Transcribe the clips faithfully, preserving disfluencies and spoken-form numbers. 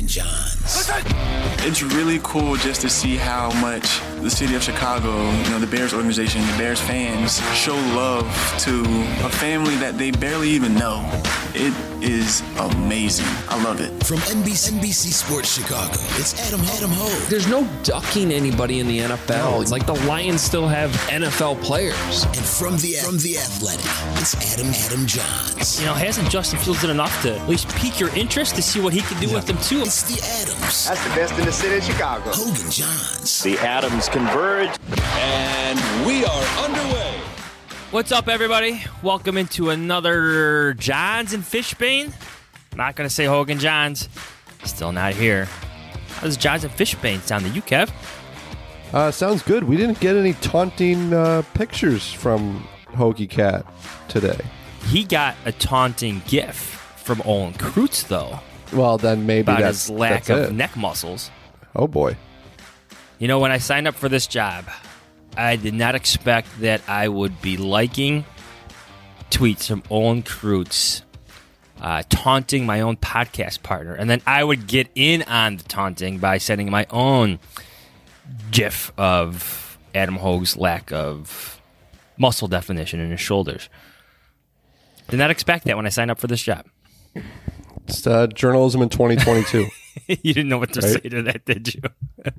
Hogan Johns. It's really cool just to see how much the city of Chicago, you know, the Bears organization, the Bears fans show love to a family that they barely even know. It is amazing. I love it. From N B C, N B C Sports Chicago, it's Adam, Adam Hogue. There's no ducking anybody in the N F L. It's like the Lions still have N F L players. And from the from the Athletic, it's Adam, Adam Johns. You know, hasn't Justin Fields done enough to at least pique your interest to see what he can do with them, too? It's the Adams. That's the best in the city of Chicago. Hogan Johns. The Adams converge. And we are underway. What's up, everybody? Welcome into another Johns and Fishbane. Not going to say Hogan Johns. Still not here. How does Johns and Fishbane sound to you, Kev? Uh, sounds good. We didn't get any taunting uh, pictures from Hoagie Cat today. He got a taunting gif from Olin Kreutz, though. Well, then maybe about that's his lack that's of it. neck muscles. Oh, boy. You know, when I signed up for this job, I did not expect that I would be liking tweets from Olin Kreutz uh, taunting my own podcast partner. And then I would get in on the taunting by sending my own gif of Adam Hogue's lack of muscle definition in his shoulders. Did not expect that when I signed up for this job. It's uh, journalism in twenty twenty-two. You didn't know what to right? say to that, did you?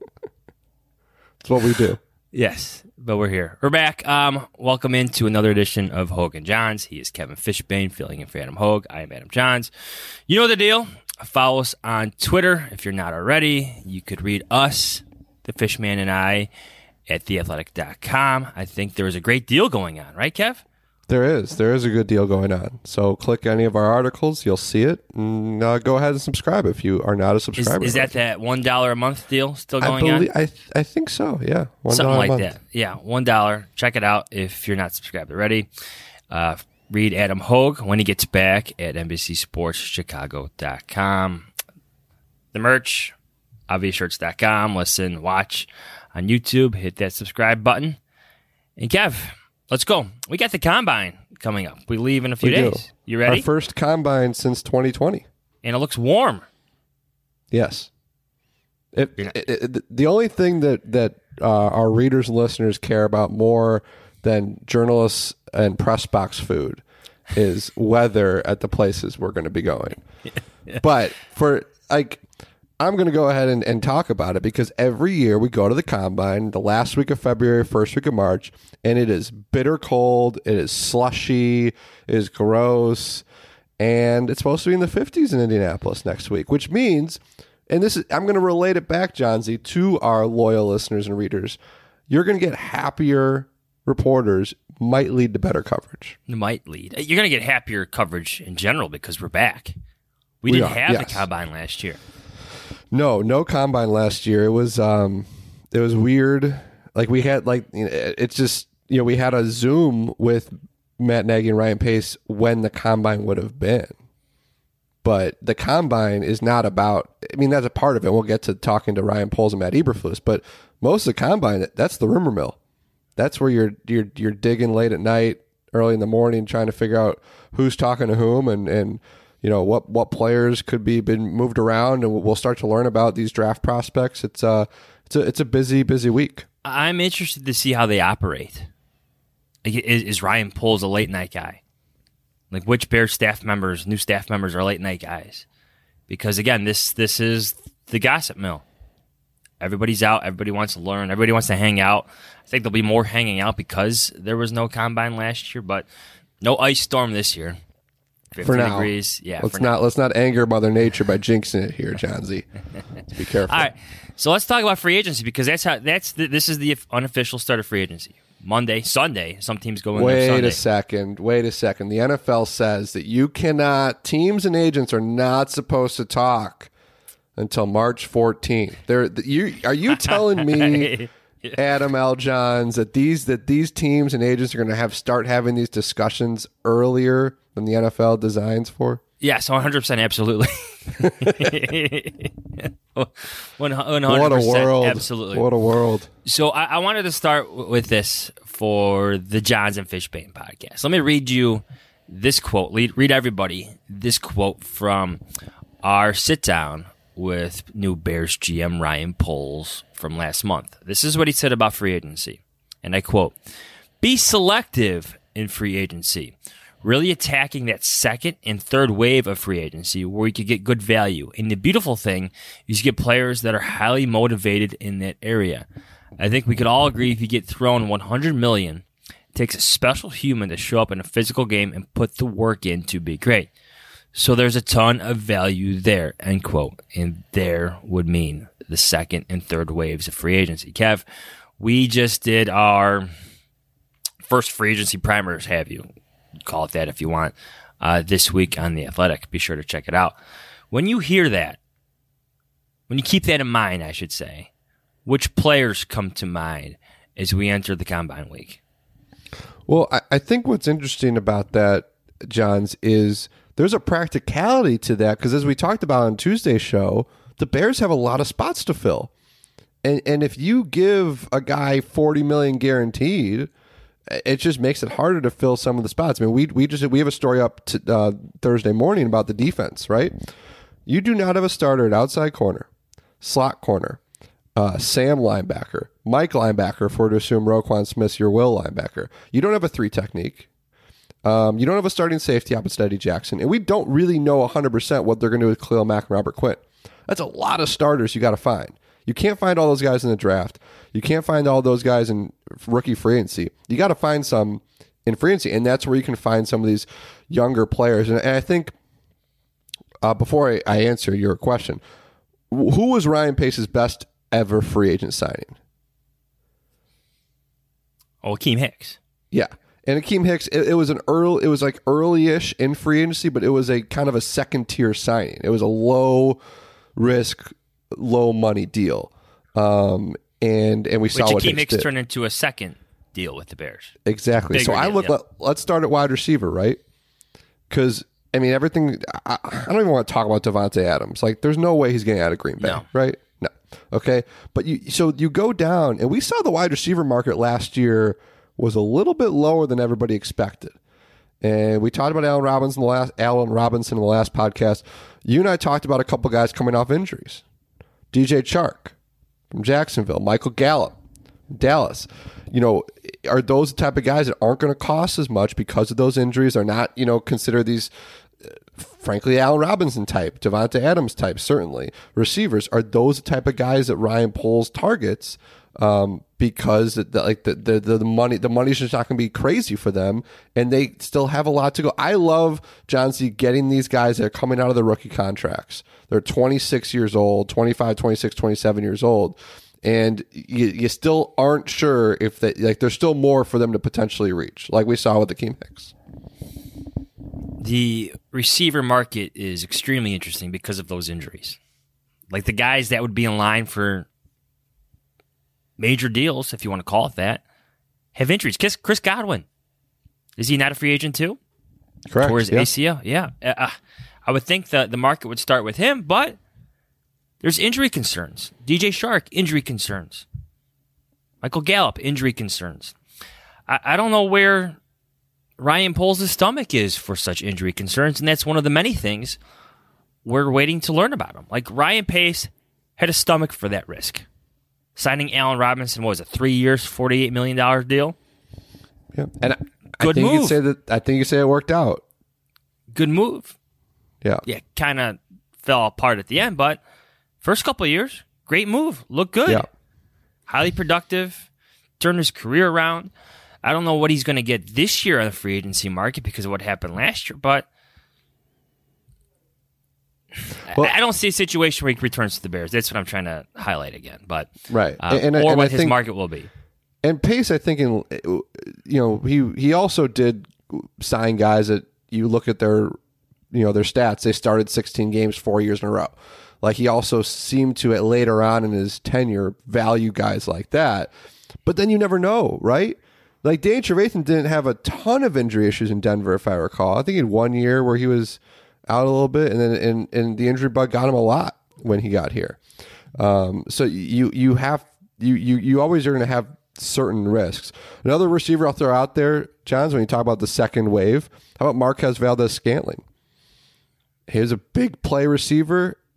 It's what we do. Yes, but we're here. We're back. Um, welcome into another edition of Hogan Johns. He is Kevin Fishbane, filling in for Adam Hogue. I am Adam Johns. You know the deal. Follow us on Twitter if you're not already. You could read us, the Fishman and I, at the athletic dot com. I think there is a great deal going on, right, Kev? There is. There is a good deal going on. So click any of our articles. You'll see it. And uh, go ahead and subscribe if you are not a subscriber. Is, is that that one dollar a month deal still going I believe, on? I th- I think so, yeah. one dollar Something like a month. that. Yeah, one dollar. Check it out if you're not subscribed already. Uh, read Adam Hogue when he gets back at N B C Sports Chicago dot com. The merch, obvious shirts dot com. Listen, watch on YouTube. Hit that subscribe button. And Kev, let's go. We got the Combine coming up. We leave in a few We days. do. You ready? Our first Combine since twenty twenty. And it looks warm. Yes. It, it, it, the only thing that, that uh, our readers and listeners care about more than journalists and press box food is weather at the places we're going to be going. But for like, I'm going to go ahead and, and talk about it because every year we go to the Combine, the last week of February, first week of March, and it is bitter cold, it is slushy, it is gross, and it's supposed to be in the fifties in Indianapolis next week, which means, and this is, I'm going to relate it back, Johnsy, to our loyal listeners and readers, you're going to get happier reporters, might lead to better coverage. It might lead. You're going to get happier coverage in general because we're back. We, We didn't are, have yes. the Combine last year. No, no Combine last year. It was um, it was weird. Like we had like you know, it's just you know we had a Zoom with Matt Nagy and Ryan Pace when the Combine would have been, but the Combine is not about. I mean, that's a part of it. We'll get to talking to Ryan Poles and Matt Eberflus, but most of the Combine, that's the rumor mill. That's where you're you're you're digging late at night, early in the morning, trying to figure out who's talking to whom and and. You know what? What players could be been moved around, and we'll start to learn about these draft prospects. It's a, it's a, it's a busy, busy week. I'm interested to see how they operate. Like, is, is Ryan Poles a late night guy? Like, which Bears staff members, new staff members, are late night guys? Because again, this this is the gossip mill. Everybody's out. Everybody wants to learn. Everybody wants to hang out. I think there'll be more hanging out because there was no Combine last year, but no ice storm this year. For now, degrees. Yeah, let's for not now. let's not anger Mother Nature by jinxing it here, Johnsy. Let's be careful. All right, so let's talk about free agency because that's how that's the, this is the unofficial start of free agency. Monday, Sunday. Some teams go in there Wait Sunday. a second. Wait a second. The N F L says that you cannot. Teams and agents are not supposed to talk until March fourteenth. They're you. Are you telling me? Adam L. Johns, that these that these teams and agents are going to have start having these discussions earlier than the N F L designs for? Yes, one hundred percent, absolutely. one hundred percent, what a world! Absolutely, What a world! So I, I wanted to start w- with this for the Johns and Fishbane podcast. Let me read you this quote. Read, read everybody this quote from our sit down with new Bears G M Ryan Poles from last month. This is what he said about free agency, and I quote, "Be selective in free agency, really attacking that second and third wave of free agency where you could get good value. And the beautiful thing is you get players that are highly motivated in that area. I think we could all agree if you get thrown one hundred million dollars, it takes a special human to show up in a physical game and put the work in to be great. So there's a ton of value there," end quote. And there would mean the second and third waves of free agency. Kev, we just did our first free agency primers, have you? Call it that if you want, uh, this week on The Athletic. Be sure to check it out. When you hear that, when you keep that in mind, I should say, which players come to mind as we enter the Combine Week? Well, I, I think what's interesting about that, Johns, is there's a practicality to that because as we talked about on Tuesday's show, the Bears have a lot of spots to fill. And and if you give a guy forty million dollars guaranteed, it just makes it harder to fill some of the spots. I mean, we we just we have a story up to, uh, Thursday morning about the defense, right? You do not have a starter at outside corner, slot corner, uh, Sam linebacker, Mike linebacker, if we're to assume Roquan Smith's your will linebacker. You don't have a three technique. Um, you don't have a starting safety opposite Eddie Jackson. And we don't really know one hundred percent what they're going to do with Khalil Mack and Robert Quinn. That's a lot of starters you got to find. You can't find all those guys in the draft. You can't find all those guys in rookie free agency. You got to find some in free agency, and that's where you can find some of these younger players. And, and I think uh, before I, I answer your question, who was Ryan Pace's best ever free agent signing? Oh, Akeem Hicks. Yeah. And Akeem Hicks, it, it was an early, it was like early-ish in free agency, but it was a kind of a second-tier signing. It was a low-risk, low-money deal. Um, and and we Which saw what Akeem Hicks, Hicks did. turned into a second deal with the Bears. Exactly. So Bigger I deal, look. yep. Let, let's start at wide receiver, right? Because I mean, everything. I, I don't even want to talk about Devontae Adams. Like, there's no way he's getting out of Green Bay, No. right? No. Okay. But you. So you go down, and we saw the wide receiver market last year was a little bit lower than everybody expected. And we talked about Allen Robinson in the last Allen Robinson in the last podcast. You and I talked about a couple guys coming off injuries. D J Chark from Jacksonville, Michael Gallup, Dallas. You know, are those the type of guys that aren't going to cost as much because of those injuries? Are not, you know, consider these, uh, frankly, Allen Robinson type, Devontae Adams type, certainly receivers. Are those the type of guys that Ryan Poles targets? Um, because the, like the, the the money the money's just not going to be crazy for them, and they still have a lot to go. I love John C. getting these guys that are coming out of the rookie contracts. They're twenty-six years old, twenty-five, twenty-six, twenty-seven years old, and you, you still aren't sure if they like. There's still more for them to potentially reach, like we saw with Akeem Hicks. The receiver market is extremely interesting because of those injuries. Like the guys that would be in line for major deals, if you want to call it that, have injuries. Chris, Chris Godwin, is he not a free agent too? Correct. Towards yeah. A C L? Yeah. Uh, I would think the, the market would start with him, but there's injury concerns. D J Chark, injury concerns. Michael Gallup, injury concerns. I, I don't know where Ryan Poles' stomach is for such injury concerns, and that's one of the many things we're waiting to learn about him. Like, Ryan Pace had a stomach for that risk. Signing Allen Robinson was a three years, forty-eight million dollars deal. Yeah, and I, Good I think move. you could say that. I think you say it worked out. Good move. Yeah, Yeah, kind of fell apart at the end, but first couple of years, great move. Looked good. Yeah. Highly productive. Turned his career around. I don't know what he's going to get this year on the free agency market because of what happened last year, but Well, I don't see a situation where he returns to the Bears. That's what I'm trying to highlight again. But right, uh, and, and, or and what I his think, market will be. And Pace, I think, in you know, he he also did sign guys that you look at their you know their stats. They started sixteen games four years in a row. Like, he also seemed to, at later on in his tenure, value guys like that. But then you never know, right? Like, Dan Trevathan didn't have a ton of injury issues in Denver, if I recall. I think he had one year where he was out a little bit, and then and, and the injury bug got him a lot when he got here. Um, so you you have you you you always are going to have certain risks. Another receiver I'll throw out there, Johns, when you talk about the second wave, how about Marquez Valdez-Scantling? He was a big play receiver,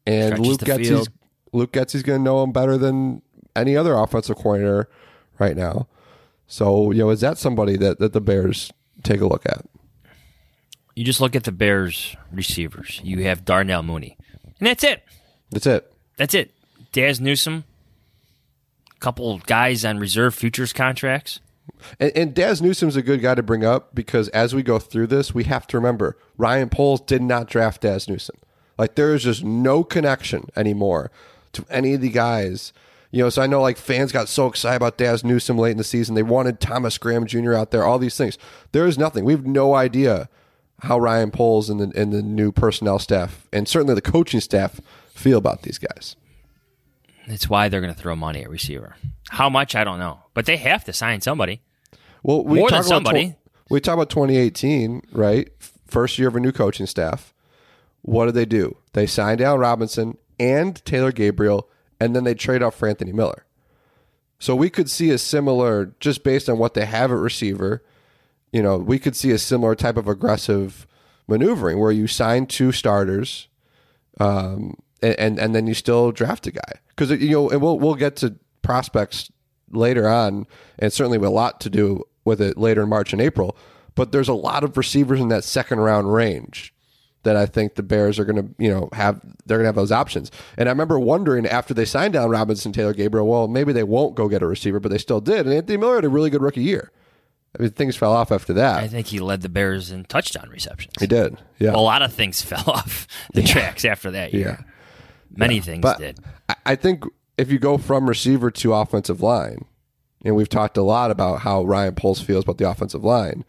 And Stretches Luke the Getsy's field. Luke Getsy's going to know him better than any other offensive coordinator right now. So, you know, is that somebody that, that the Bears take a look at? You just look at the Bears receivers. You have Darnell Mooney. And that's it. That's it. That's it. Daz Newsome, a couple guys on reserve futures contracts. And, and Daz Newsome's a good guy to bring up because as we go through this, we have to remember Ryan Poles did not draft Daz Newsome. Like, there is just no connection anymore to any of the guys. You know, so I know like fans got so excited about Daz Newsome late in the season. They wanted Thomas Graham Junior out there, all these things. There is nothing. We have no idea how Ryan Poles and the, and the new personnel staff, and certainly the coaching staff, feel about these guys. That's why they're going to throw money at receiver. How much, I don't know. But they have to sign somebody. Well, we More talk than somebody. About tw- we talk about twenty eighteen, right? First year of a new coaching staff. What did they do? They signed Allen Robinson and Taylor Gabriel, and then they trade off for Anthony Miller. So we could see a similar, just based on what they have at receiver, you know, we could see a similar type of aggressive maneuvering where you sign two starters, um, and, and and then you still draft a guy. Because, you know, and we'll we'll get to prospects later on, and certainly with a lot to do with it later in March and April. But there's a lot of receivers in that second round range that I think the Bears are going to, you know, have, they're going to have those options. And I remember wondering after they signed down Robinson, Taylor Gabriel, well, maybe they won't go get a receiver, but they still did. And Anthony Miller had a really good rookie year. I mean, things fell off after that. I think he led the Bears in touchdown receptions. He did, yeah. A lot of things fell off the Yeah. tracks after that year. Yeah. Many Yeah. things But did. I- I think if you go from receiver to offensive line, and we've talked a lot about how Ryan Poles feels about the offensive line,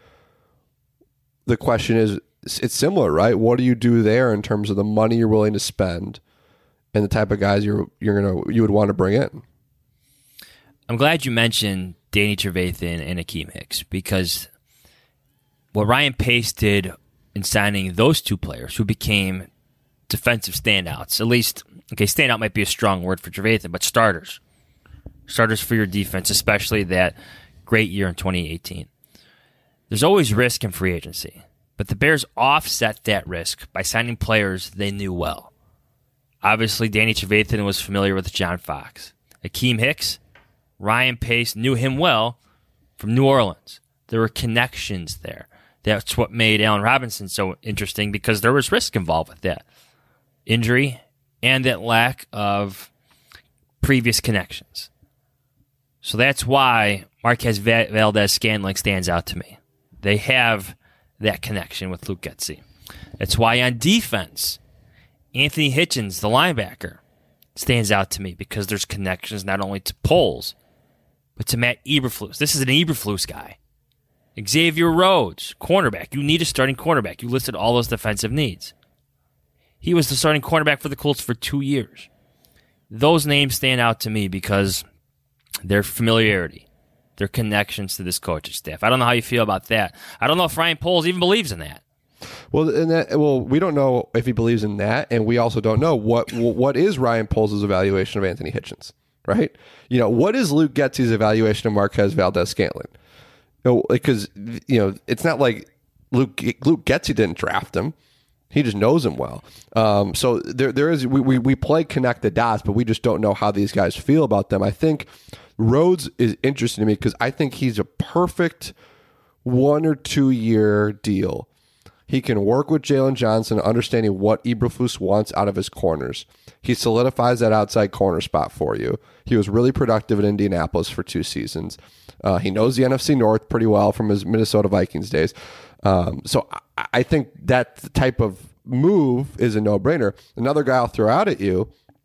the question is, it's similar, right? What do you do there in terms of the money you're willing to spend and the type of guys you're you're gonna you would want to bring in? I'm glad you mentioned Danny Trevathan and Akeem Hicks, because what Ryan Pace did in signing those two players who became defensive standouts, at least, okay, standout might be a strong word for Trevathan, but starters. Starters for your defense, especially that great year in twenty eighteen. There's always risk in free agency, but the Bears offset that risk by signing players they knew well. Obviously, Danny Trevathan was familiar with John Fox. Akeem Hicks, Ryan Pace knew him well from New Orleans. There were connections there. That's what made Allen Robinson so interesting, because there was risk involved with that. Injury and that lack of previous connections. So that's why Marquez Valdez-Scantling stands out to me. They have that connection with Luke Getsy. That's why on defense, Anthony Hitchens, the linebacker, stands out to me, because there's connections not only to Poles, but to Matt Eberflus. This is an Eberflus guy. Xavier Rhodes, cornerback. You need a starting cornerback. You listed all those defensive needs. He was the starting cornerback for the Colts for two years. Those names stand out to me because their familiarity, their connections to this coaching staff. I don't know how you feel about that. I don't know if Ryan Poles even believes in that. Well, and that, well, we don't know if he believes in that, and we also don't know what what is Ryan Poles' evaluation of Anthony Hitchens, right? You know, what is Luke Getsy's evaluation of Marquez Valdez-Scantling? You know, because you know, it's not like Luke Luke Getsy didn't draft him; he just knows him well. Um, so there there is we, we we play connect the dots, but we just don't know how these guys feel about them. I think Rhodes is interesting to me because I think he's a perfect one or two year deal. He can work with Jalen Johnson, understanding what Eberflus wants out of his corners. He solidifies that outside corner spot for you. He was really productive in Indianapolis for two seasons. Uh, he knows the N F C North pretty well from his Minnesota Vikings days. Um, so I, I think that type of move is a no-brainer. Another guy I'll throw out at you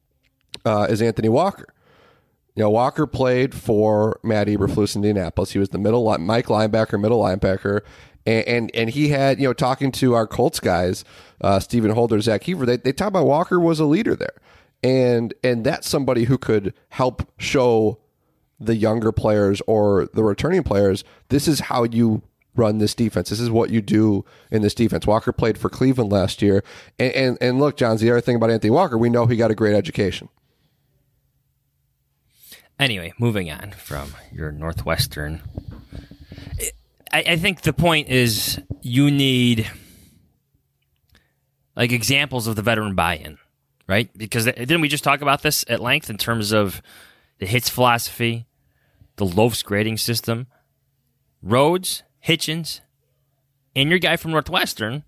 uh, is Anthony Walker. You know, Walker played for Matt Eberflus in Indianapolis. He was the middle line, Mike linebacker, middle linebacker. And, and and he had, you know, talking to our Colts guys, uh, Stephen Holder, Zach Heaver, they, they talk about Walker was a leader there. And and that's somebody who could help show the younger players or the returning players, this is how you run this defense. This is what you do in this defense. Walker played for Cleveland last year. And, and, and look, John, the other thing about Anthony Walker, we know he got a great education. Anyway, moving on from your Northwestern. I, I think the point is you need like examples of the veteran buy-in. right? Because didn't we just talk about this at length in terms of the hits philosophy, the Loaf's grading system? Rhodes, Hitchens, and your guy from Northwestern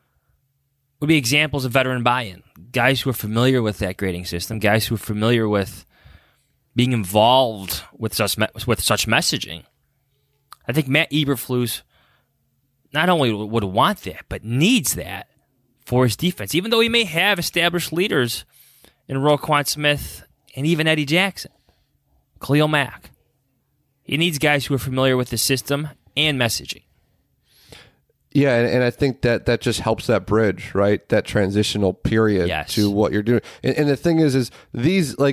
would be examples of veteran buy-in. Guys who are familiar with that grading system, guys who are familiar with being involved with such with such messaging. I think Matt Eberflus not only would want that, but needs that for his defense, even though he may have established leaders in Roquan Smith and even Eddie Jackson, Khalil Mack. He needs guys who are familiar with the system and messaging. Yeah, and, and I think that that just helps that bridge, right? That transitional period yes. to what you're doing. And, and the thing is, is these, like,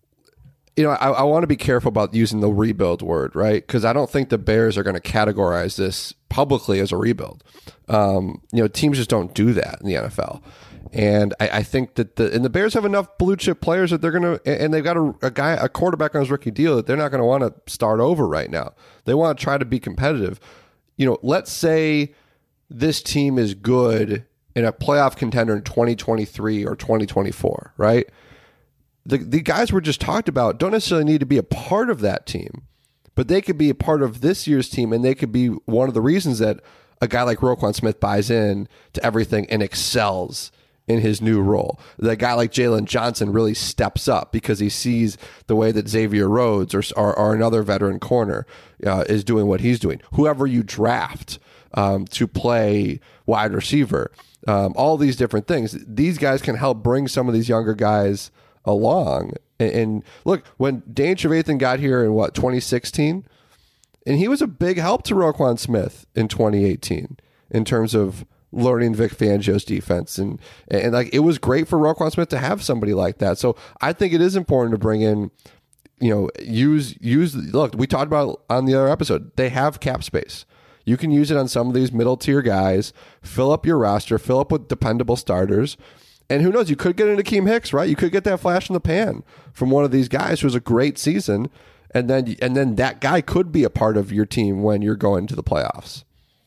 you know, I, I want to be careful about using the rebuild word, right? Because I don't think the Bears are going to categorize this publicly as a rebuild. Um, you know, teams just don't do that in the N F L. And I, I think that the and the Bears have enough blue chip players that they're going to, and they've got a, a guy, a quarterback on his rookie deal that they're not going to want to start over right now. They want to try to be competitive. You know, let's say this team is good in a playoff contender in twenty twenty-three or twenty twenty-four, right? The the guys we just talked about don't necessarily need to be a part of that team, but they could be a part of this year's team, and they could be one of the reasons that a guy like Roquan Smith buys in to everything and excels in his new role. That guy like Jalen Johnson really steps up because he sees the way that Xavier Rhodes or, or, or another veteran corner uh, is doing what he's doing. Whoever you draft um, to play wide receiver, um, all these different things, these guys can help bring some of these younger guys along. And, and look, when Dane Trevathan got here in what, twenty sixteen, and he was a big help to Roquan Smith in twenty eighteen in terms of learning Vic Fangio's defense. And, and like, it was great for Roquan Smith to have somebody like that. So I think it is important to bring in, you know, use, use, look, we talked about on the other episode, they have cap space. You can use it on some of these middle tier guys, fill up your roster, fill up with dependable starters. And who knows, you could get into Akeem Hicks, right? You could get that flash in the pan from one of these guys who has a great season. And then, and then that guy could be a part of your team when you're going to the playoffs.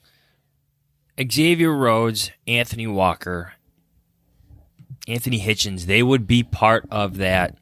Xavier Rhodes, Anthony Walker, Anthony Hitchens, they would be part of that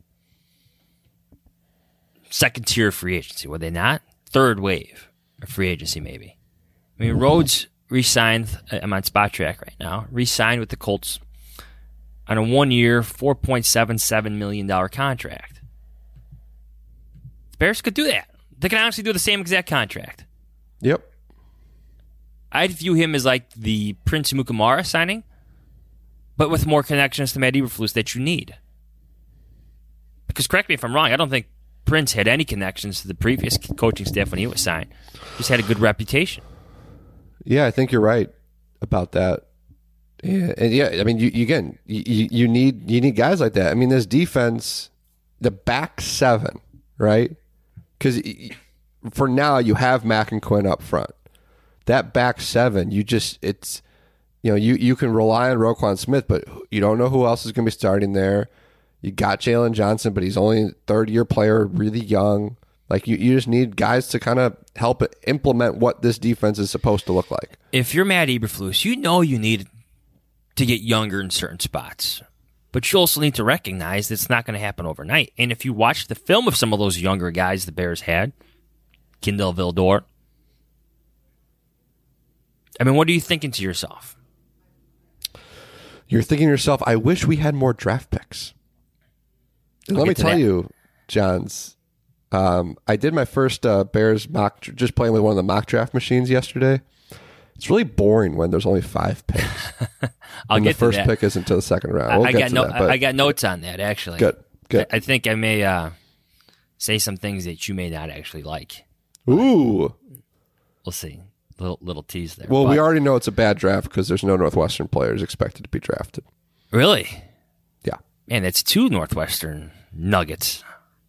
second tier free agency, would they not? Third wave of free agency, maybe. I mean, Rhodes re-signed, I'm on Spot Track right now, re-signed with the Colts on a one-year, four point seven seven million dollars contract. The Bears could do that. They can honestly do the same exact contract. Yep. I'd view him as like the Prince Mukamara signing, but with more connections to Matt Eberflus that you need. Because correct me if I'm wrong, I don't think Prince had any connections to the previous coaching staff when he was signed. Just had a good reputation. Yeah, I think you're right about that. Yeah, and yeah, I mean, you, you again, you, you need you need guys like that. I mean, this defense, the back seven, right? Because for now, you have Mack and Quinn up front. That back seven, you just, it's, you know, you, you can rely on Roquan Smith, but you don't know who else is going to be starting there. You got Jalen Johnson, but he's only a third-year player, really young. Like, you, you just need guys to kind of help implement what this defense is supposed to look like. If you're Matt Eberflus, you know you need to get younger in certain spots. But you also need to recognize that it's not going to happen overnight. And if you watch the film of some of those younger guys the Bears had, Kindle Vildor, I mean, what are you thinking to yourself? You're thinking to yourself, I wish we had more draft picks. I'll Let me tell that. you, Johns, um, I did my first uh, Bears mock, just playing with one of the mock draft machines yesterday. It's really boring when there's only five picks. I'll and get the first to that. pick is until the second round. We'll I, get got to no, that, but I got notes on that, actually. Good, good. I, I think I may uh, say some things that you may not actually like. Ooh. We'll see. Little little tease there. Well, but, we already know it's a bad draft because there's no Northwestern players expected to be drafted. Really? Yeah. Man, that's two Northwestern Nuggets.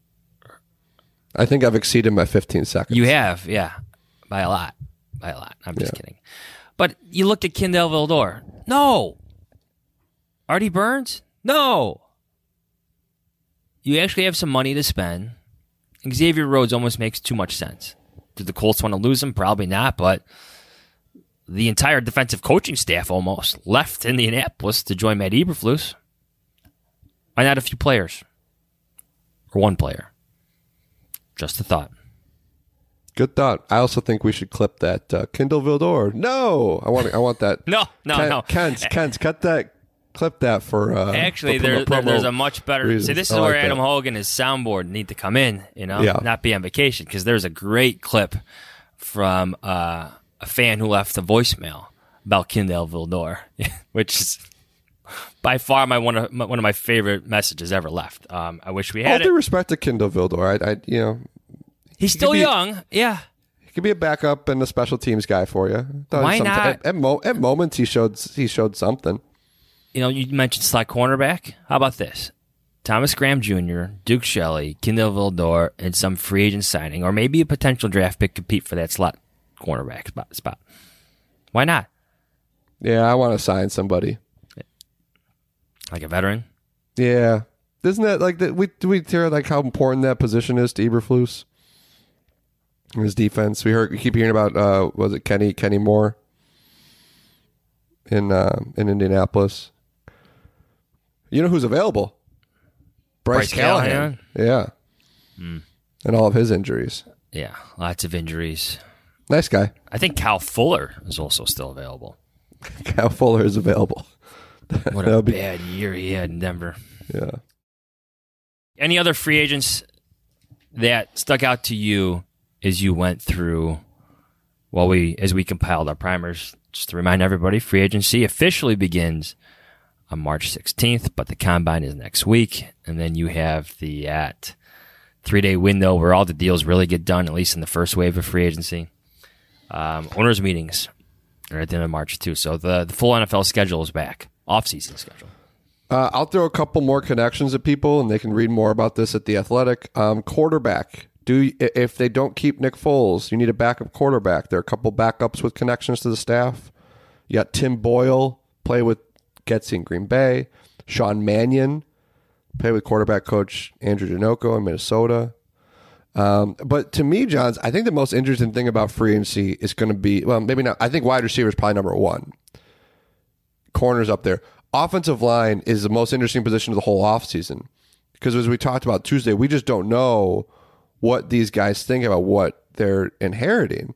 I think I've exceeded my fifteen seconds. You have, yeah. By a lot. By a lot. I'm just Yeah. kidding. But you looked at Kindle Vildor. No. Artie Burns? No. You actually have some money to spend. Xavier Rhodes almost makes too much sense. Did the Colts want to lose him? Probably not, but the entire defensive coaching staff almost left Indianapolis to join Matt Eberflus. Why not a few players? Or one player? Just a thought. Good thought. I also think we should clip that uh, Kindle Vildor. No, I want. I want that. no, no, Ken, no. Kent, Kent, cut that. Clip that for. Uh, Actually, for there, promo there's a much better. reasons. See, this is I like where Adam that. Hogan and his soundboard need to come in. You know, Yeah. not be on vacation, because there's a great clip from uh, a fan who left a voicemail about Kindle Vildor, which is by far my one of my, one of my favorite messages ever left. Um, I wish we All had due it. respect to Kindle Vildor, I, I, you know, He's still be- young. Yeah. he could be a backup and a special teams guy for you. Thought Why somet- not? At, at, mo- at moments, he showed he showed something. You know, you mentioned slot cornerback. How about this? Thomas Graham Junior, Duke Shelley, Kindle Vildor, and some free agent signing, or maybe a potential draft pick compete for that slot cornerback spot. spot. Why not? Yeah, I want to sign somebody. Like a veteran? Yeah, isn't that like that? We do we hear like how important that position is to Eberflus? His defense. We heard we keep hearing about. Uh, was it Kenny Kenny Moore in uh, in Indianapolis? You know who's available? Bryce, Bryce Callahan. Callahan? Yeah, and all of his injuries. Yeah, lots of injuries. Nice guy. I think Kyle Fuller is also still available. Kyle Fuller is available. What That'll a be- bad year he had in Denver. Yeah. Any other free agents that stuck out to you as you went through, well, we as we compiled our primers? Just to remind everybody, free agency officially begins on March sixteenth, but the combine is next week, and then you have the at three-day window where all the deals really get done, at least in the first wave of free agency. Um, owners' meetings are at the end of March, too. So the, the full N F L schedule is back, off-season schedule. Uh, I'll throw a couple more connections at people, and they can read more about this at The Athletic. Um, quarterback. Do if they don't keep Nick Foles, you need a backup quarterback. There are a couple backups with connections to the staff. You got Tim Boyle, play with Getsy in Green Bay. Sean Mannion, play with quarterback coach Andrew Janocko in Minnesota. Um, but to me, Johns, I think the most interesting thing about free agency is going to be, well, maybe not. I think wide receiver is probably number one. Corners up there. Offensive line is the most interesting position of the whole offseason. Because as we talked about Tuesday, we just don't know what these guys think about what they're inheriting.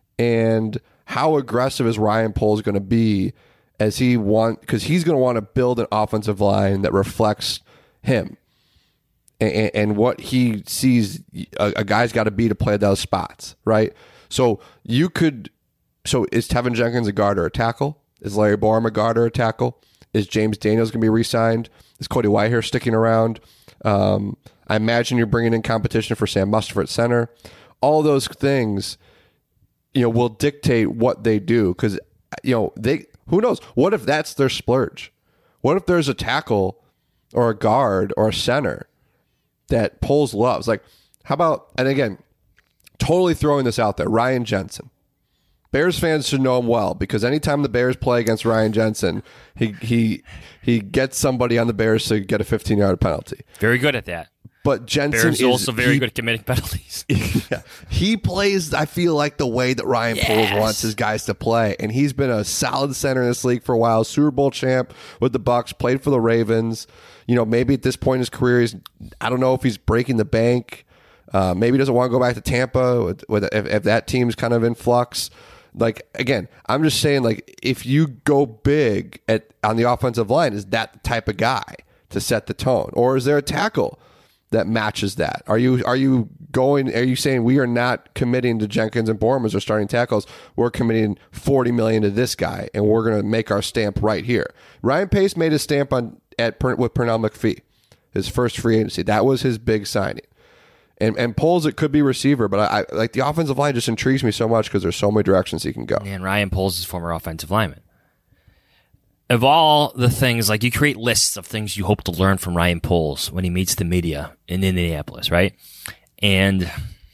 And how aggressive is Ryan Poles going to be as he want, because he's going to want to build an offensive line that reflects him and, and what he sees a, a guy's got to be to play those spots, right? So you could, so is Tevin Jenkins a guard or a tackle? Is Larry Borum a guard or a tackle? Is James Daniels going to be re-signed? Is Cody Whitehair sticking around? Um, I imagine you're bringing in competition for Sam Mustipher at center. All those things, you know, will dictate what they do because, you know, they, who knows? What if that's their splurge? What if there's a tackle or a guard or a center that Poles loves? Like, how about, and again, totally throwing this out there, Ryan Jensen. Bears fans should know him well because anytime the Bears play against Ryan Jensen, he he he gets somebody on the Bears to get a fifteen-yard penalty. Very good at that. But Jensen Bears is also very he, good at committing penalties. yeah, he plays, I feel like, the way that Ryan Yes. Poles wants his guys to play. And he's been a solid center in this league for a while. Super Bowl champ with the Bucks, played for the Ravens. You know, maybe at this point in his career, he's, I don't know if he's breaking the bank. Uh, maybe he doesn't want to go back to Tampa with, with if, if that team's kind of in flux. Like, again, I'm just saying, like, if you go big at on the offensive line, is that the type of guy to set the tone? Or is there a tackle that matches that? Are you are you going, are you saying we are not committing to Jenkins and Borum as our starting tackles? We're committing forty million dollars to this guy, and we're going to make our stamp right here. Ryan Pace made his stamp on at with Pernell McPhee, his first free agency. That was his big signing. And and Poles, it could be receiver, but I, I like the offensive line just intrigues me so much because there's so many directions he can go. And Ryan Poles is former offensive lineman. Of all the things, like you create lists of things you hope to learn from Ryan Poles when he meets the media in Indianapolis, right? And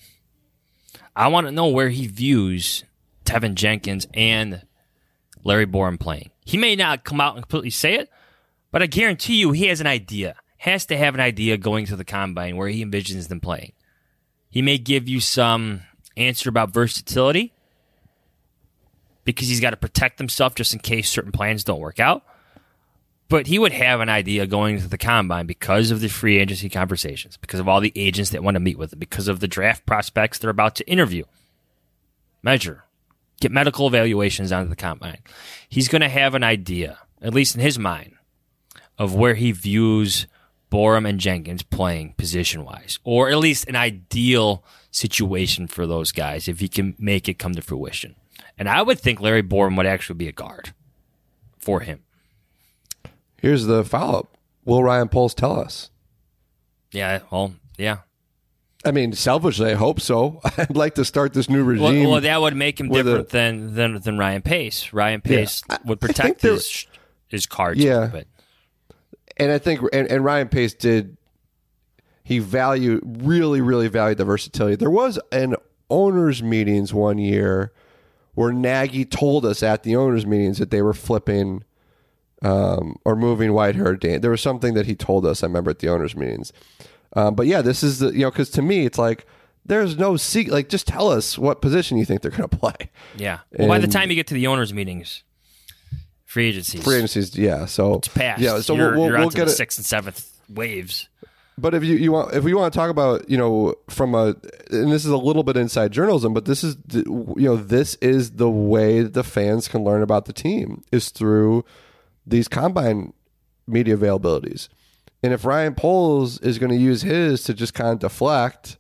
I want to know where he views Tevin Jenkins and Larry Borum playing. He may not come out and completely say it, but I guarantee you he has an idea. Has to have an idea going to the combine where he envisions them playing. He may give you some answer about versatility because he's got to protect himself just in case certain plans don't work out. But he would have an idea going into the combine because of the free agency conversations, because of all the agents that want to meet with him, because of the draft prospects they're about to interview, measure, get medical evaluations onto the combine. He's going to have an idea, at least in his mind, of where he views Borum and Jenkins playing position-wise, or at least an ideal situation for those guys if he can make it come to fruition. And I would think Larry Borum would actually be a guard for him. Here's the follow-up. Will Ryan Poles tell us? Yeah, well, yeah. I mean, selfishly, I hope so. I'd like to start this new regime. Well, well that would make him different a, than, than than Ryan Pace. Ryan Pace yeah, would protect his his cards. Yeah, but. And I think, and, and Ryan Pace did, he valued, really, really valued the versatility. There was an owners' meetings one year where Nagy told us at the owners' meetings that they were flipping um, or moving Whitehair. Dan. There was something that he told us, I remember, at the owners' meetings. Um, but yeah, this is the, you know, because to me, it's like, there's no secret. Like, just tell us what position you think they're going to play. Yeah. Well, and by the time you get to the owners' meetings, free agencies. Free agencies, yeah. So it's past. Yeah, so you're, we'll, we'll, you're we'll on to get the it. sixth and seventh waves. But if you, you want, if we want to talk about, you know, from a, and this is a little bit inside journalism, but this is, you know, this is the way that the fans can learn about the team is through these combine media availabilities. And if Ryan Poles is going to use his to just kind of deflect,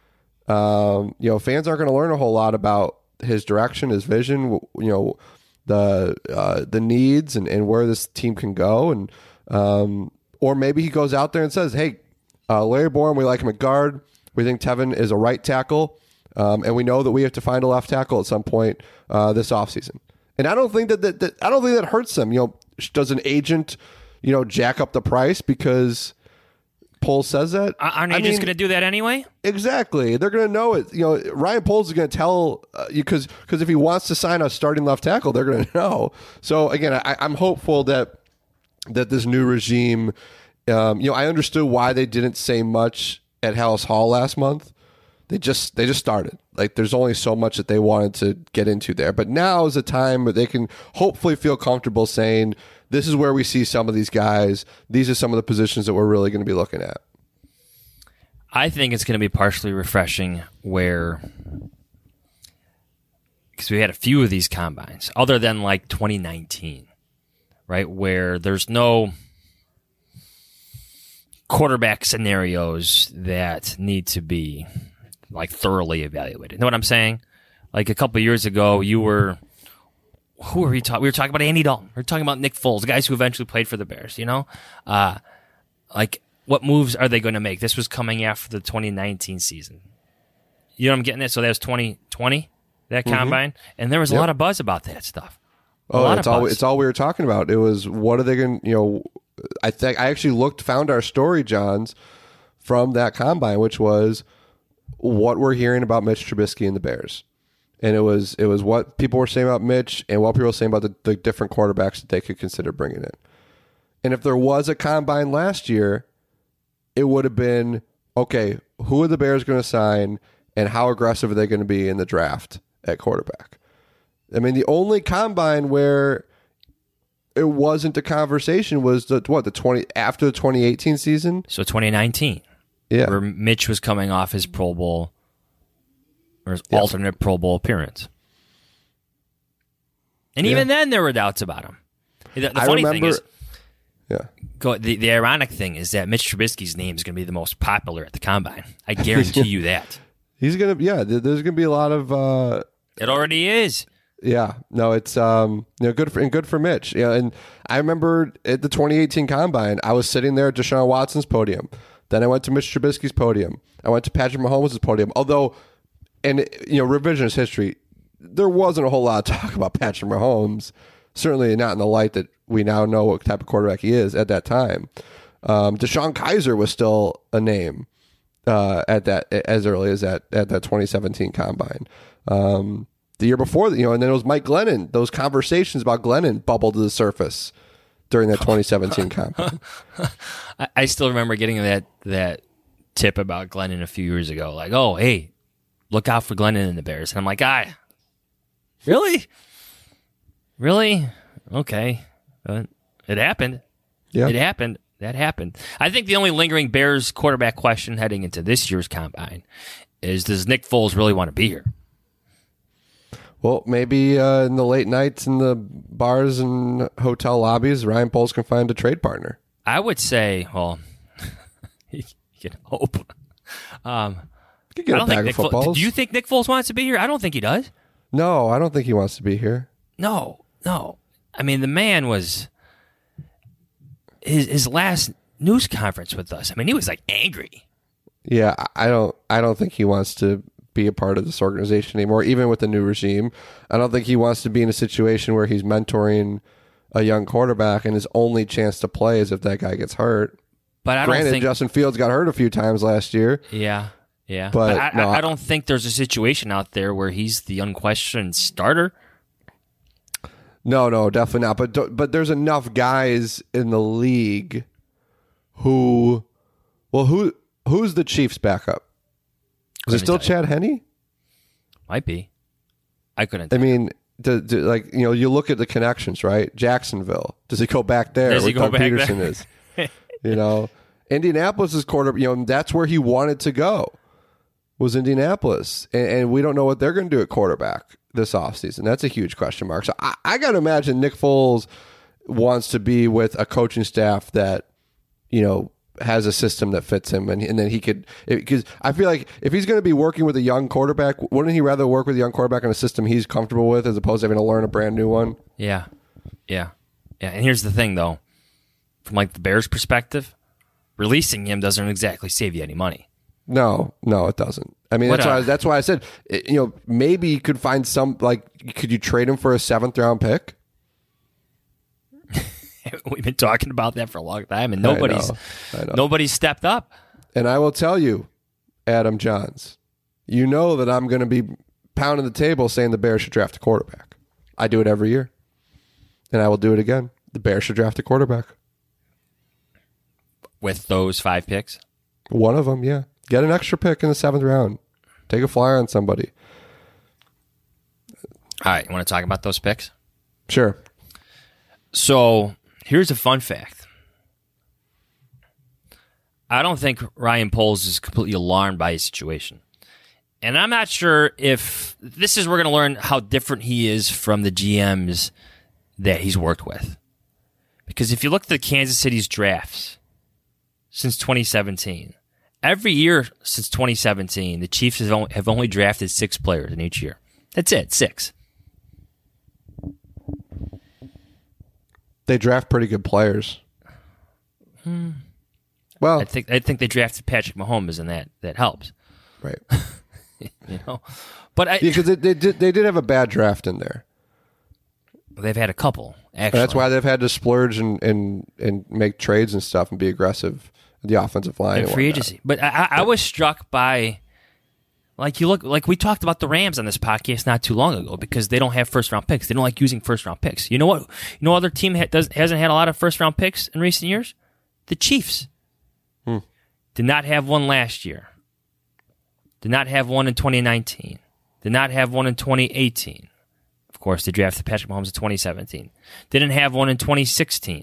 um, you know, fans aren't going to learn a whole lot about his direction, his vision, you know, the uh, the needs and, and where this team can go. And um, or maybe he goes out there and says, hey, uh, Larry Borum, we like him at guard. We think Tevin is a right tackle. Um, and we know that we have to find a left tackle at some point uh, this offseason. And I don't think that, that, that I don't think that hurts them. You know, does an agent, you know, jack up the price because Poles says that? Aren't agents going to do that anyway? Exactly. They're going to know it. You know, Ryan Poles is going to tell uh, you because because if he wants to sign a starting left tackle, they're going to know. So again, I, I'm hopeful that that this new regime, um, you know, I understood why they didn't say much at Hallis Hall last month. They just they just started. Like there's only so much that they wanted to get into there. But now is a time where they can hopefully feel comfortable saying, this is where we see some of these guys. These are some of the positions that we're really going to be looking at. I think it's going to be partially refreshing where, because we had a few of these combines, other than like twenty nineteen, right, where there's no quarterback scenarios that need to be like thoroughly evaluated. Know what I'm saying? Like a couple of years ago, you were... Who were we talking? We were talking about Andy Dalton. We were talking about Nick Foles, guys who eventually played for the Bears. You know, uh, like what moves are they going to make? This was coming after the twenty nineteen season. You know what I'm getting at? So that was twenty twenty, that mm-hmm. combine, and there was a yep. lot of buzz about that stuff. A oh, lot it's of all buzz. it's all we were talking about. It was what are they going? You know, I think I actually looked, found our story, Johns, from that combine, which was what we're hearing about Mitch Trubisky and the Bears. And it was it was what people were saying about Mitch and what people were saying about the, the different quarterbacks that they could consider bringing in. And if there was a combine last year, it would have been, okay, who are the Bears going to sign and how aggressive are they going to be in the draft at quarterback? I mean, the only combine where it wasn't a conversation was the what the twenty after the twenty eighteen season. So twenty nineteen, yeah, where Mitch was coming off his Pro Bowl. Or his yep. alternate Pro Bowl appearance. And yeah. even then, there were doubts about him. The, the funny remember, thing is, yeah. go, the, the ironic thing is that Mitch Trubisky's name is going to be the most popular at the Combine. I guarantee you that. He's going to, yeah, there's going to be a lot of... Uh, it already is. Yeah, no, it's um, you know, good for and good for Mitch. Yeah, and I remember at the twenty eighteen Combine, I was sitting there at Deshaun Watson's podium. Then I went to Mitch Trubisky's podium. I went to Patrick Mahomes' podium. Although... And, you know, revisionist history, there wasn't a whole lot of talk about Patrick Mahomes, certainly not in the light that we now know what type of quarterback he is at that time. Um, Deshaun Kaiser was still a name uh, at that as early as that at that twenty seventeen Combine. Um, the year before, you know, and then it was Mike Glennon. Those conversations about Glennon bubbled to the surface during that twenty seventeen Combine. I still remember getting that that tip about Glennon a few years ago. Like, oh, hey, look out for Glennon and the Bears. And I'm like, ah, really? Really? Okay. Uh, it happened. Yeah. It happened. That happened. I think the only lingering Bears quarterback question heading into this year's combine is, does Nick Foles really want to be here? Well, maybe uh, in the late nights in the bars and hotel lobbies, Ryan Poles can find a trade partner. I would say, well, you can hope. Um, You could get I a don't bag think of Nick Fo- footballs. Do you think Nick Foles wants to be here? I don't think he does. No, I don't think he wants to be here. No, no. I mean, the man was his his last news conference with us. I mean, he was like angry. Yeah, I don't. I don't think he wants to be a part of this organization anymore, even with the new regime. I don't think he wants to be in a situation where he's mentoring a young quarterback and his only chance to play is if that guy gets hurt. But I Granted, don't think Justin Fields got hurt a few times last year. Yeah, yeah. But, But, I, no, I, I- I don't think there's a situation out there where he's the unquestioned starter. No, no, definitely not. But do- but there's enough guys in the league who, well, who who's the Chiefs' backup? Is it Couldn't still tell Chad Henne? Might be. I couldn't. I mean, do, do, like you know, you look at the connections, right? Jacksonville. Does he go back there? Does he where go Doug back Peterson there? is. You know, Indianapolis is quarter. You know, that's where he wanted to go. Was Indianapolis, and, and we don't know what they're going to do at quarterback this offseason. That's a huge question mark. So I, I got to imagine Nick Foles wants to be with a coaching staff that, you know, has a system that fits him, and, and then he could, because I feel like if he's going to be working with a young quarterback, wouldn't he rather work with a young quarterback on a system he's comfortable with as opposed to having to learn a brand new one? Yeah, yeah, yeah. And here's the thing, though, from like the Bears' perspective, releasing him doesn't exactly save you any money. No, no, it doesn't. I mean, What that's a- why. That's why I said, it- you know, maybe you could find some, like, could you trade him for a seventh round pick? We've been talking about that for a long time, and nobody's I know, I know. nobody's stepped up. And I will tell you, Adam Johns, you know that I'm going to be pounding the table saying the Bears should draft a quarterback. I do it every year, and I will do it again. The Bears should draft a quarterback. With those five picks, One of them, yeah. Get an extra pick in the seventh round. Take a flyer on somebody. all right. You want to talk about those picks? Sure. So here's a fun fact. I don't think Ryan Poles is completely alarmed by his situation. And I'm not sure if this is, we're going to learn how different he is from the G Ms that he's worked with. Because if you look at the Kansas City's drafts since twenty seventeen, every year since twenty seventeen, the Chiefs have only, have only drafted six players in each year. That's it, six. They draft pretty good players. Well, I think I think they drafted Patrick Mahomes, and that that helps. right. You know, but I, Yeah, because they, they, did, they did have a bad draft in there. they've had a couple. Actually, That's why they've had to splurge and, and, and make trades and stuff and be aggressive at the offensive line. in and free whatnot. agency. But I, I I was struck by, like you look, like we talked about the Rams on this podcast not too long ago because they don't have first round picks. They don't like using first round picks. You know what? You know, other team ha- does hasn't had a lot of first round picks in recent years. The Chiefs Hmm. did not have one last year. Did not have one in twenty nineteen. Did not have one in twenty eighteen. Of course, they drafted Patrick Mahomes in twenty seventeen. Didn't have one in twenty sixteen.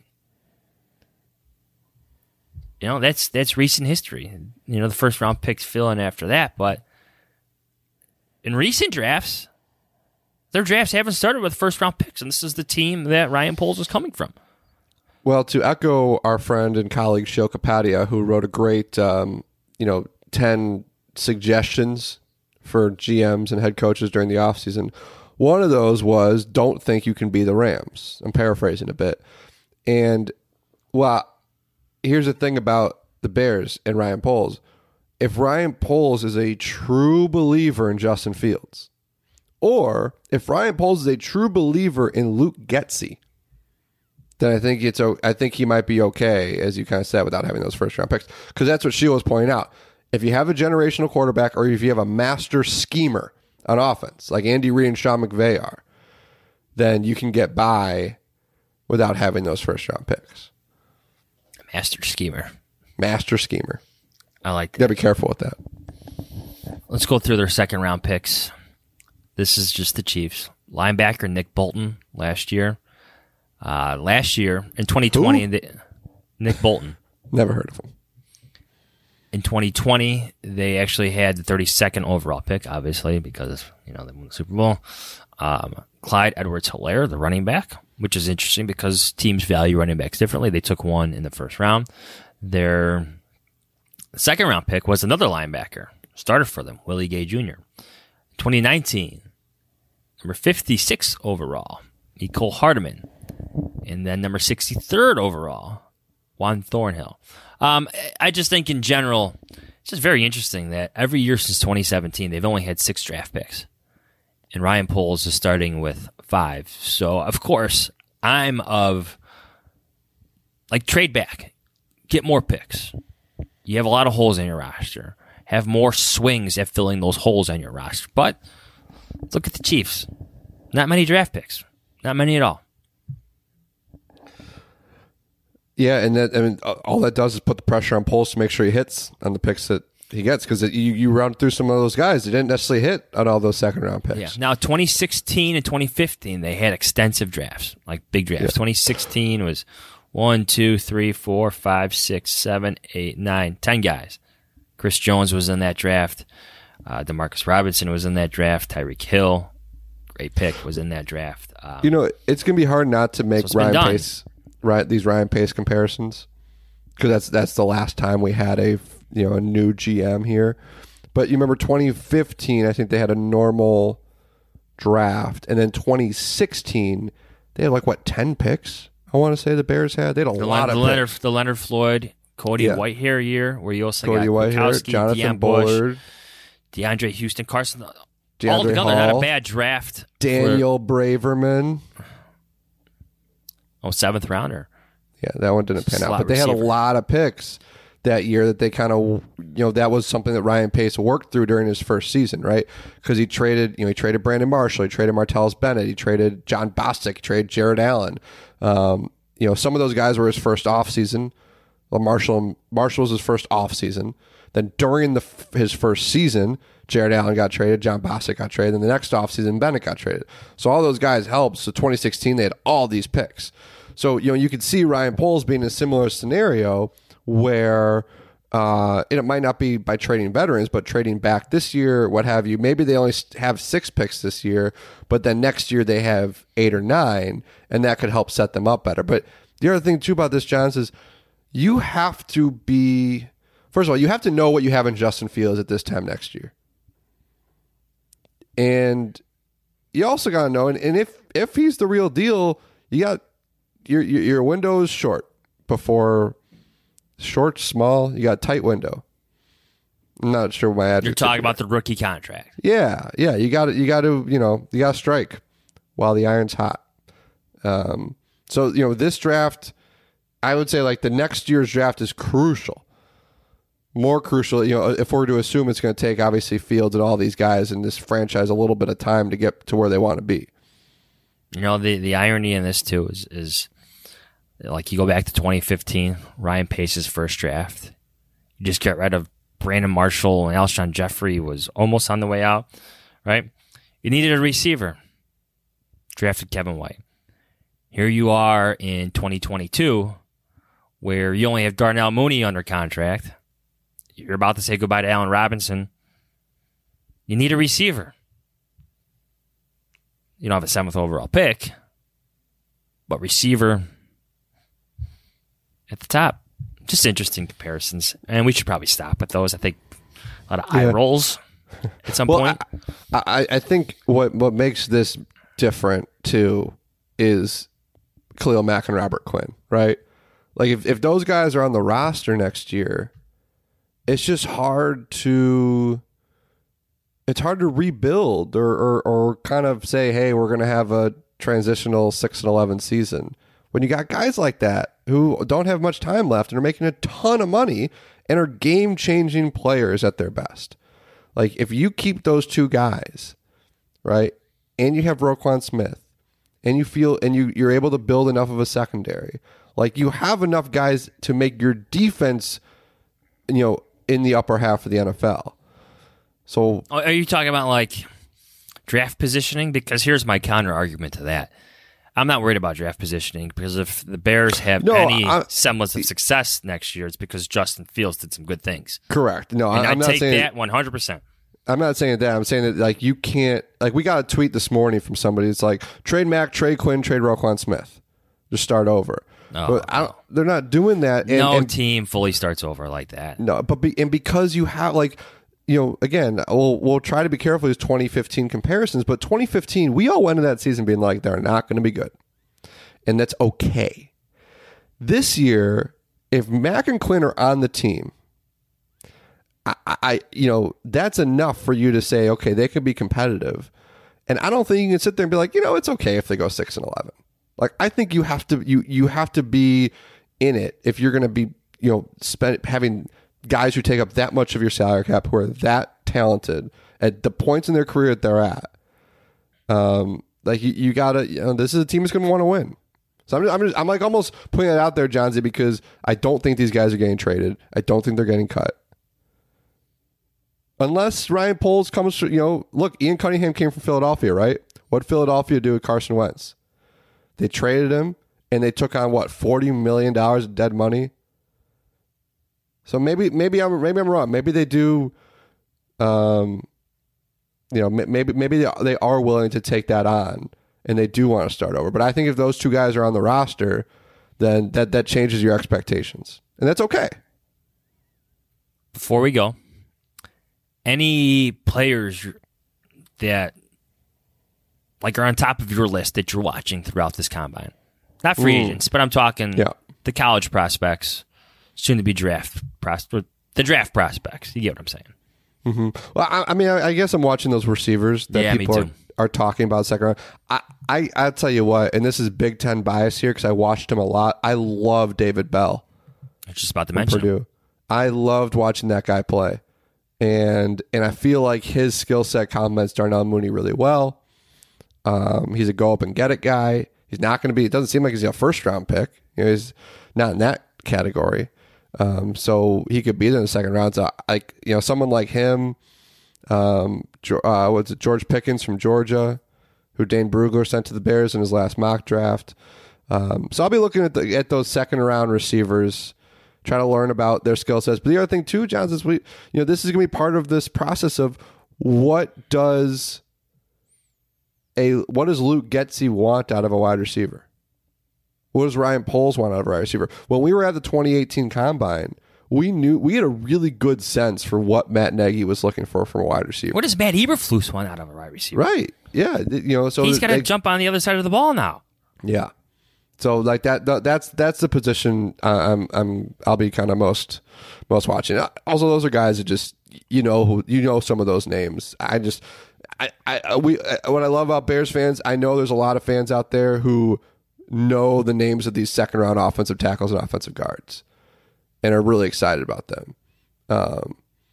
You know, that's that's recent history. You know, the first round picks fill in after that, but in recent drafts, their drafts haven't started with first round picks, and this is the team that Ryan Poles was coming from. Well, to echo our friend and colleague Shil Kapadia, who wrote a great, um, you know, ten suggestions for G Ms and head coaches during the offseason, one of those was don't think you can be the Rams. I'm paraphrasing a bit. And, well, here's the thing about the Bears and Ryan Poles. If Ryan Poles is a true believer in Justin Fields, or if Ryan Poles is a true believer in Luke Getsy, then I think it's o- I think he might be okay, as you kind of said, without having those first round picks. Because that's what Sheila was pointing out. If you have a generational quarterback, or if you have a master schemer on offense, like Andy Reid and Sean McVay are, then you can get by without having those first round picks. Master schemer. Master schemer. I like You that. gotta be careful with that. Let's go through their second round picks. This is just the Chiefs. Linebacker Nick Bolton last year. Uh, last year in twenty twenty, Who? the, Nick Bolton. Never heard of him. In twenty twenty, they actually had the thirty-second overall pick, obviously, because you know they won the Super Bowl. Um, Clyde Edwards-Helaire, the running back, which is interesting because teams value running backs differently. They took one in the first round. Their second round pick was another linebacker, started for them, Willie Gay Junior twenty nineteen, number fifty-six overall, Nicole Hardeman. And then number sixty-third overall, Juan Thornhill. Um, I just think in general, it's just very interesting that every year since twenty seventeen, they've only had six draft picks. And Ryan Poles is starting with five. So, of course, I'm of, like, trade back. Get more picks. You have a lot of holes in your roster. Have more swings at filling those holes on your roster. But look at the Chiefs. Not many draft picks. Not many at all. Yeah, and that, I mean, all that does is put the pressure on Poles to make sure he hits on the picks that he gets, because you, you run through some of those guys, they didn't necessarily hit on all those second round picks. Yeah. Now, twenty sixteen and twenty fifteen, they had extensive drafts, like big drafts. Yeah. twenty sixteen was one, two, three, four, five, six, seven, eight, nine, ten guys. Chris Jones was in that draft. Uh, Demarcus Robinson was in that draft. Tyreek Hill, great pick, was in that draft. Um, You know, it's going to be hard not to make So it's been Ryan done. Pace, right? These Ryan Pace comparisons, because that's that's the last time we had a you know a new G M here. But you remember twenty fifteen, I think they had a normal draft, and then twenty sixteen they had like what ten picks. I want to say the Bears had. They had a the, lot the of Leonard, picks. the Leonard Floyd, Cody Yeah. Whitehair year, where you also Cody got Whitehair, Gronkowski, Jonathan Deion Bush, Bullard, DeAndre Houston, Carson. DeAndre all together, not a Hall, bad draft. Daniel Braverman. For, oh, seventh rounder. Yeah, that one didn't pan out. Slot But they had a receiver. lot of picks that year that they kind of, you know, that was something that Ryan Pace worked through during his first season, right? Because he traded, you know, he traded Brandon Marshall, he traded Martellus Bennett, he traded John Bostic, he traded Jared Allen. Um, you know, some of those guys were his first offseason. Well, Marshall, Marshall was his first offseason. Then during the his first season, Jared Allen got traded, John Bostic got traded, and the next offseason, Bennett got traded. So all those guys helped. So twenty sixteen, they had all these picks. So, you know, you could see Ryan Poles being in a similar scenario where uh, it might not be by trading veterans, but trading back this year, what have you. Maybe they only have six picks this year, but then next year they have eight or nine, and that could help set them up better. But the other thing, too, about this, Johns, is you have to be, first of all, you have to know what you have in Justin Fields at this time next year. And you also got to know, and, and if, if he's the real deal, you got, Your, your your window is short before short, small. You got a tight window. I'm not sure my adjective. You're talking about the rookie contract. Yeah, yeah. You got to you got to you know you got to strike while the iron's hot. Um. So you know this draft, I would say like the next year's draft is crucial. More crucial, you know, if we're to assume it's going to take obviously Fields and all these guys in this franchise a little bit of time to get to where they want to be. You know, the, the irony in this, too, is, is like you go back to twenty fifteen, Ryan Pace's first draft. You just get rid of Brandon Marshall, and Alshon Jeffrey was almost on the way out, right? You needed a receiver. Drafted Kevin White. Here you are in twenty twenty-two, where you only have Darnell Mooney under contract. You're about to say goodbye to Allen Robinson. You need a receiver. You don't have a seventh overall pick, but receiver at the top. Just interesting comparisons. And we should probably stop with those. I think a lot of eye Yeah. rolls at some Well, point. I, I, I think what, what makes this different, too, is Khalil Mack and Robert Quinn, right? Like, if, if those guys are on the roster next year, it's just hard to... It's hard to rebuild or, or, or kind of say, hey, we're going to have a transitional six and eleven season. When you got guys like that who don't have much time left and are making a ton of money and are game-changing players at their best. Like, if you keep those two guys, right, and you have Roquan Smith, and you feel and you, you're able to build enough of a secondary, like, you have enough guys to make your defense, you know, in the upper half of the N F L. So, Are you talking about like draft positioning? Because here's my counter argument to that. I'm not worried about draft positioning because if the Bears have No, any I- semblance of success next year, it's because Justin Fields did some good things. Correct. No, And I, I'm I not take saying that one hundred percent. I'm not saying that. I'm saying that like you can't like we got a tweet this morning from somebody. It's like trade Mac, trade Quinn, trade Roquan Smith, just start over. No, but I don't, they're not doing that. And, no and, team fully starts over like that. no, but be, and because you have like you know again, we'll we'll try to be careful with these twenty fifteen comparisons. But twenty fifteen, we all went into that season being like they're not going to be good, and that's okay. This year, if Mac and Quinn are on the team. I, I, you know, that's enough for you to say, okay, they can be competitive. And I don't think you can sit there and be like, you know, it's okay if they go six and eleven. Like, I think you have to, you you have to be in it if you're going to be, you know, spend, having guys who take up that much of your salary cap who are that talented at the points in their career that they're at. Um, like you, you gotta, you know, this is a team that's going to want to win. So I'm, just, I'm, just, I'm like almost putting it out there, Johnsy, because I don't think these guys are getting traded. I don't think they're getting cut. Unless Ryan Poles comes, you know, look, Ian Cunningham came from Philadelphia, right? What did Philadelphia do with Carson Wentz? They traded him, and they took on, what, forty million dollars of dead money? So maybe maybe I'm maybe I'm wrong. Maybe they do, um, you know, maybe maybe they they are willing to take that on, and they do want to start over. But I think if those two guys are on the roster, then that, that changes your expectations, and that's okay. Before we go, any players that like are on top of your list that you're watching throughout this combine? Not free Ooh. agents, but I'm talking Yeah. the college prospects, soon to be draft prospects, the draft prospects. You get what I'm saying? Mm-hmm. Well, I, I mean, I, I guess I'm watching those receivers that Yeah, me people are, too. are talking about second round. I, I, I'll tell you what, and this is Big Ten bias here because I watched him a lot. I love David Bell I was just about to from mention him. Purdue. I loved watching that guy play. And and I feel like his skill set complements Darnell Mooney really well. Um, he's a go up and get it guy. He's not going to be. It doesn't seem like he's a first round pick. You know, he's not in that category. Um, so he could be there in the second round. So like you know, someone like him. Um, uh, what's it? George Pickens from Georgia, who Dane Brugler sent to the Bears in his last mock draft. Um, so I'll be looking at the, at those second round receivers. Try to learn about their skill sets. But the other thing too, John, is we, you know, this is going to be part of this process of what does a what does Luke Getsy want out of a wide receiver? What does Ryan Poles want out of a wide receiver? When we were at the twenty eighteen Combine, we knew we had a really good sense for what Matt Nagy was looking for from a wide receiver. What does Matt Eberflus want out of a wide receiver? Right? Yeah. You know, so He's got to they- jump on the other side of the ball now. Yeah. So like that, that that's that's the position uh, I'm I'm I'll be kind of most most watching. Also, those are guys that just you know who you know some of those names. I just I, I we what I love about Bears fans. I know there's a lot of fans out there who know the names of these second round offensive tackles and offensive guards, and are really excited about them. Um,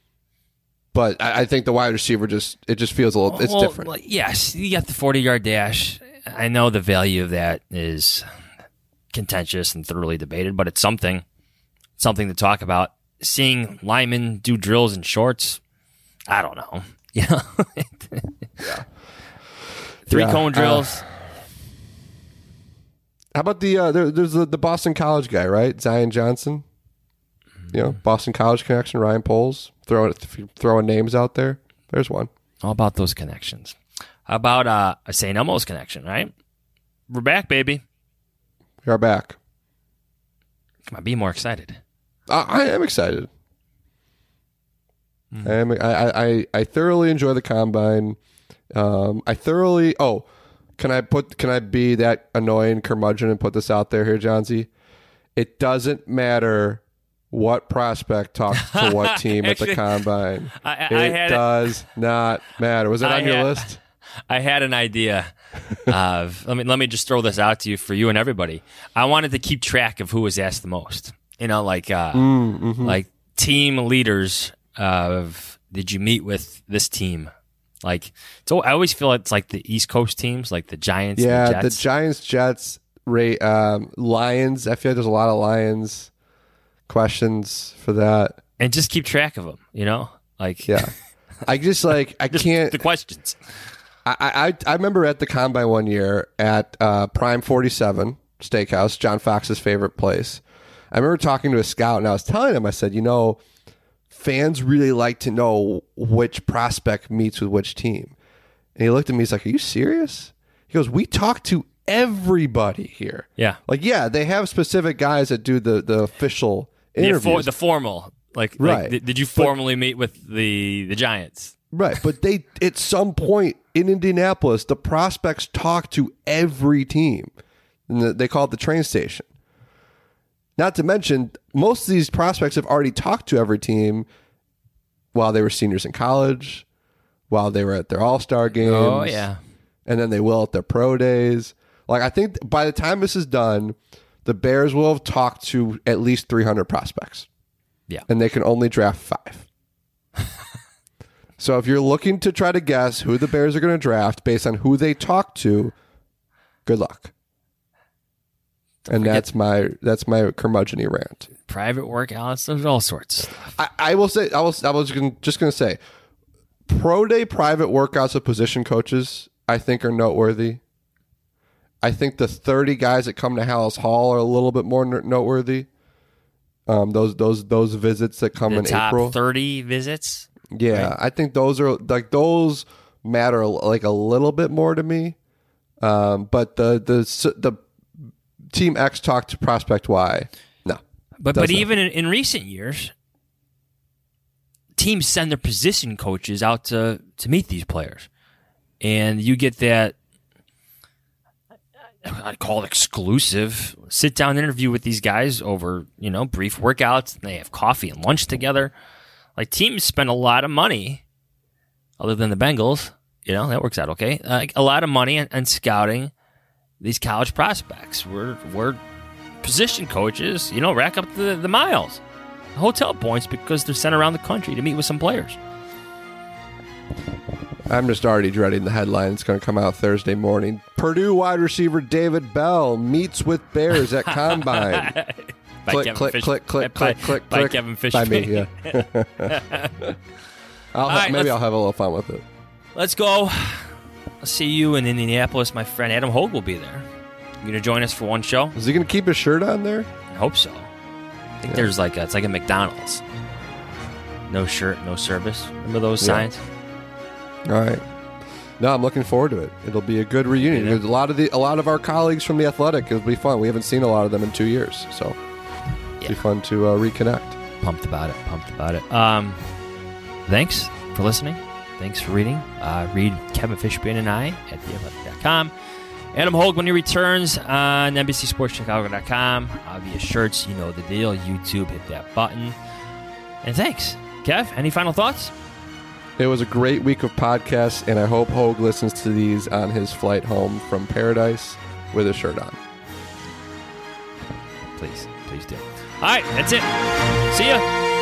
but I, I think the wide receiver just it just feels a little it's Well, different. well, yes, you got the forty-yard dash. I know the value of that is contentious and thoroughly debated, but it's something, something to talk about. Seeing linemen do drills in shorts, I don't know. You know, yeah. three Yeah, cone uh, drills. How about the uh, there, there's the, the Boston College guy, right? Zion Johnson. You know, Boston College connection. Ryan Poles throwing throwing names out there. There's one. All about those connections. How about uh, a Saint Elmo's connection, right? We're back, baby. We are back. Come on, be more excited. I, I am excited. Mm. I am. I, I I thoroughly enjoy the combine. Um, I thoroughly. Oh, can I put? Can I be that annoying curmudgeon and put this out there here, Johnsy? It doesn't matter what prospect talks to what team Actually, at the combine. I, I, it I had does not matter. Was it I on your had- list? I had an idea of let me let me just throw this out to you for you and everybody. I wanted to keep track of who was asked the most. You know, like uh, Mm, mm-hmm. like team leaders of did you meet with this team? Like so, I always feel it's like the East Coast teams, like the Giants. Yeah, and the the Jets. Giants, Jets, Ray, um, Lions. I feel like there's a lot of Lions questions for that. and just keep track of them. You know, like Yeah, I just like I just can't. the questions. I, I I remember at the Combine one year at uh, Prime forty-seven Steakhouse, John Fox's favorite place. I remember talking to a scout, and I was telling him, I said, you know, fans really like to know which prospect meets with which team. And he looked at me, he's like, are you serious? He goes, we talk to everybody here. Yeah. Like, yeah, they have specific guys that do the, the official interviews. The, for, the formal. Like, right. like did, did you formally but, meet with the, the Giants? Right. But they, at some point in Indianapolis, the prospects talk to every team. And the, they call it the train station. Not to mention, most of these prospects have already talked to every team while they were seniors in college, while they were at their all-star games. Oh, yeah. And then they will at their pro days. Like, I think by the time this is done, the Bears will have talked to at least three hundred prospects. Yeah. And they can only draft five. So if you're looking to try to guess who the Bears are going to draft based on who they talk to, good luck. And Forget that's my that's my curmudgeon-y rant. Private workouts, there's all sorts. I, I will say I was I was gonna, just going to say, pro day private workouts of position coaches I think are noteworthy. I think the thirty guys that come to Hallis Hall are a little bit more noteworthy. Um, those those those visits that come the in top April, thirty visits. Yeah, right? I think those are like those matter like a little bit more to me. Um, but the the the Team X talk to Prospect Y, no. But but even in, in recent years, teams send their position coaches out to, to meet these players. And you get that, I'd call it exclusive, sit-down interview with these guys over, you know, brief workouts. And they have coffee and lunch together. Like, teams spend a lot of money, other than the Bengals, you know, that works out okay, like a lot of money on, on scouting these college prospects. We're, we're position coaches, you know, rack up the, the miles, hotel points, because they're sent around the country to meet with some players. I'm just already dreading the headline. It's going to come out Thursday morning. Purdue wide receiver David Bell meets with Bears at Combine. click, click, Fish- click, click, by, click, click, by click. Kevin Fish. By me, yeah. I'll ha- right, maybe I'll have a little fun with it. Let's go. I'll see you in Indianapolis. My friend Adam Hogue will be there. You going to join us for one show? Is he going to keep his shirt on there? I hope so. I think Yeah. there's like a, it's like a McDonald's. No shirt, no service. Remember those Yeah. signs? All right. No, I'm looking forward to it. It'll be a good reunion. Yeah. There's a lot of the a lot of our colleagues from the Athletic. It'll be fun. We haven't seen a lot of them in two years, so it'll Yeah. be fun to uh, reconnect. Pumped about it. Pumped about it. Um, thanks for listening. Thanks for reading. Uh, read Kevin Fishbein and I at the athletic dot com. Adam Hogue when he returns on N B C Sports Chicago dot com. Obvious shirts, you know the deal. YouTube, hit that button. And thanks. Kev, any final thoughts? It was a great week of podcasts, and I hope Hogue listens to these on his flight home from Paradise with his shirt on. Please, please do. All right, that's it. See ya.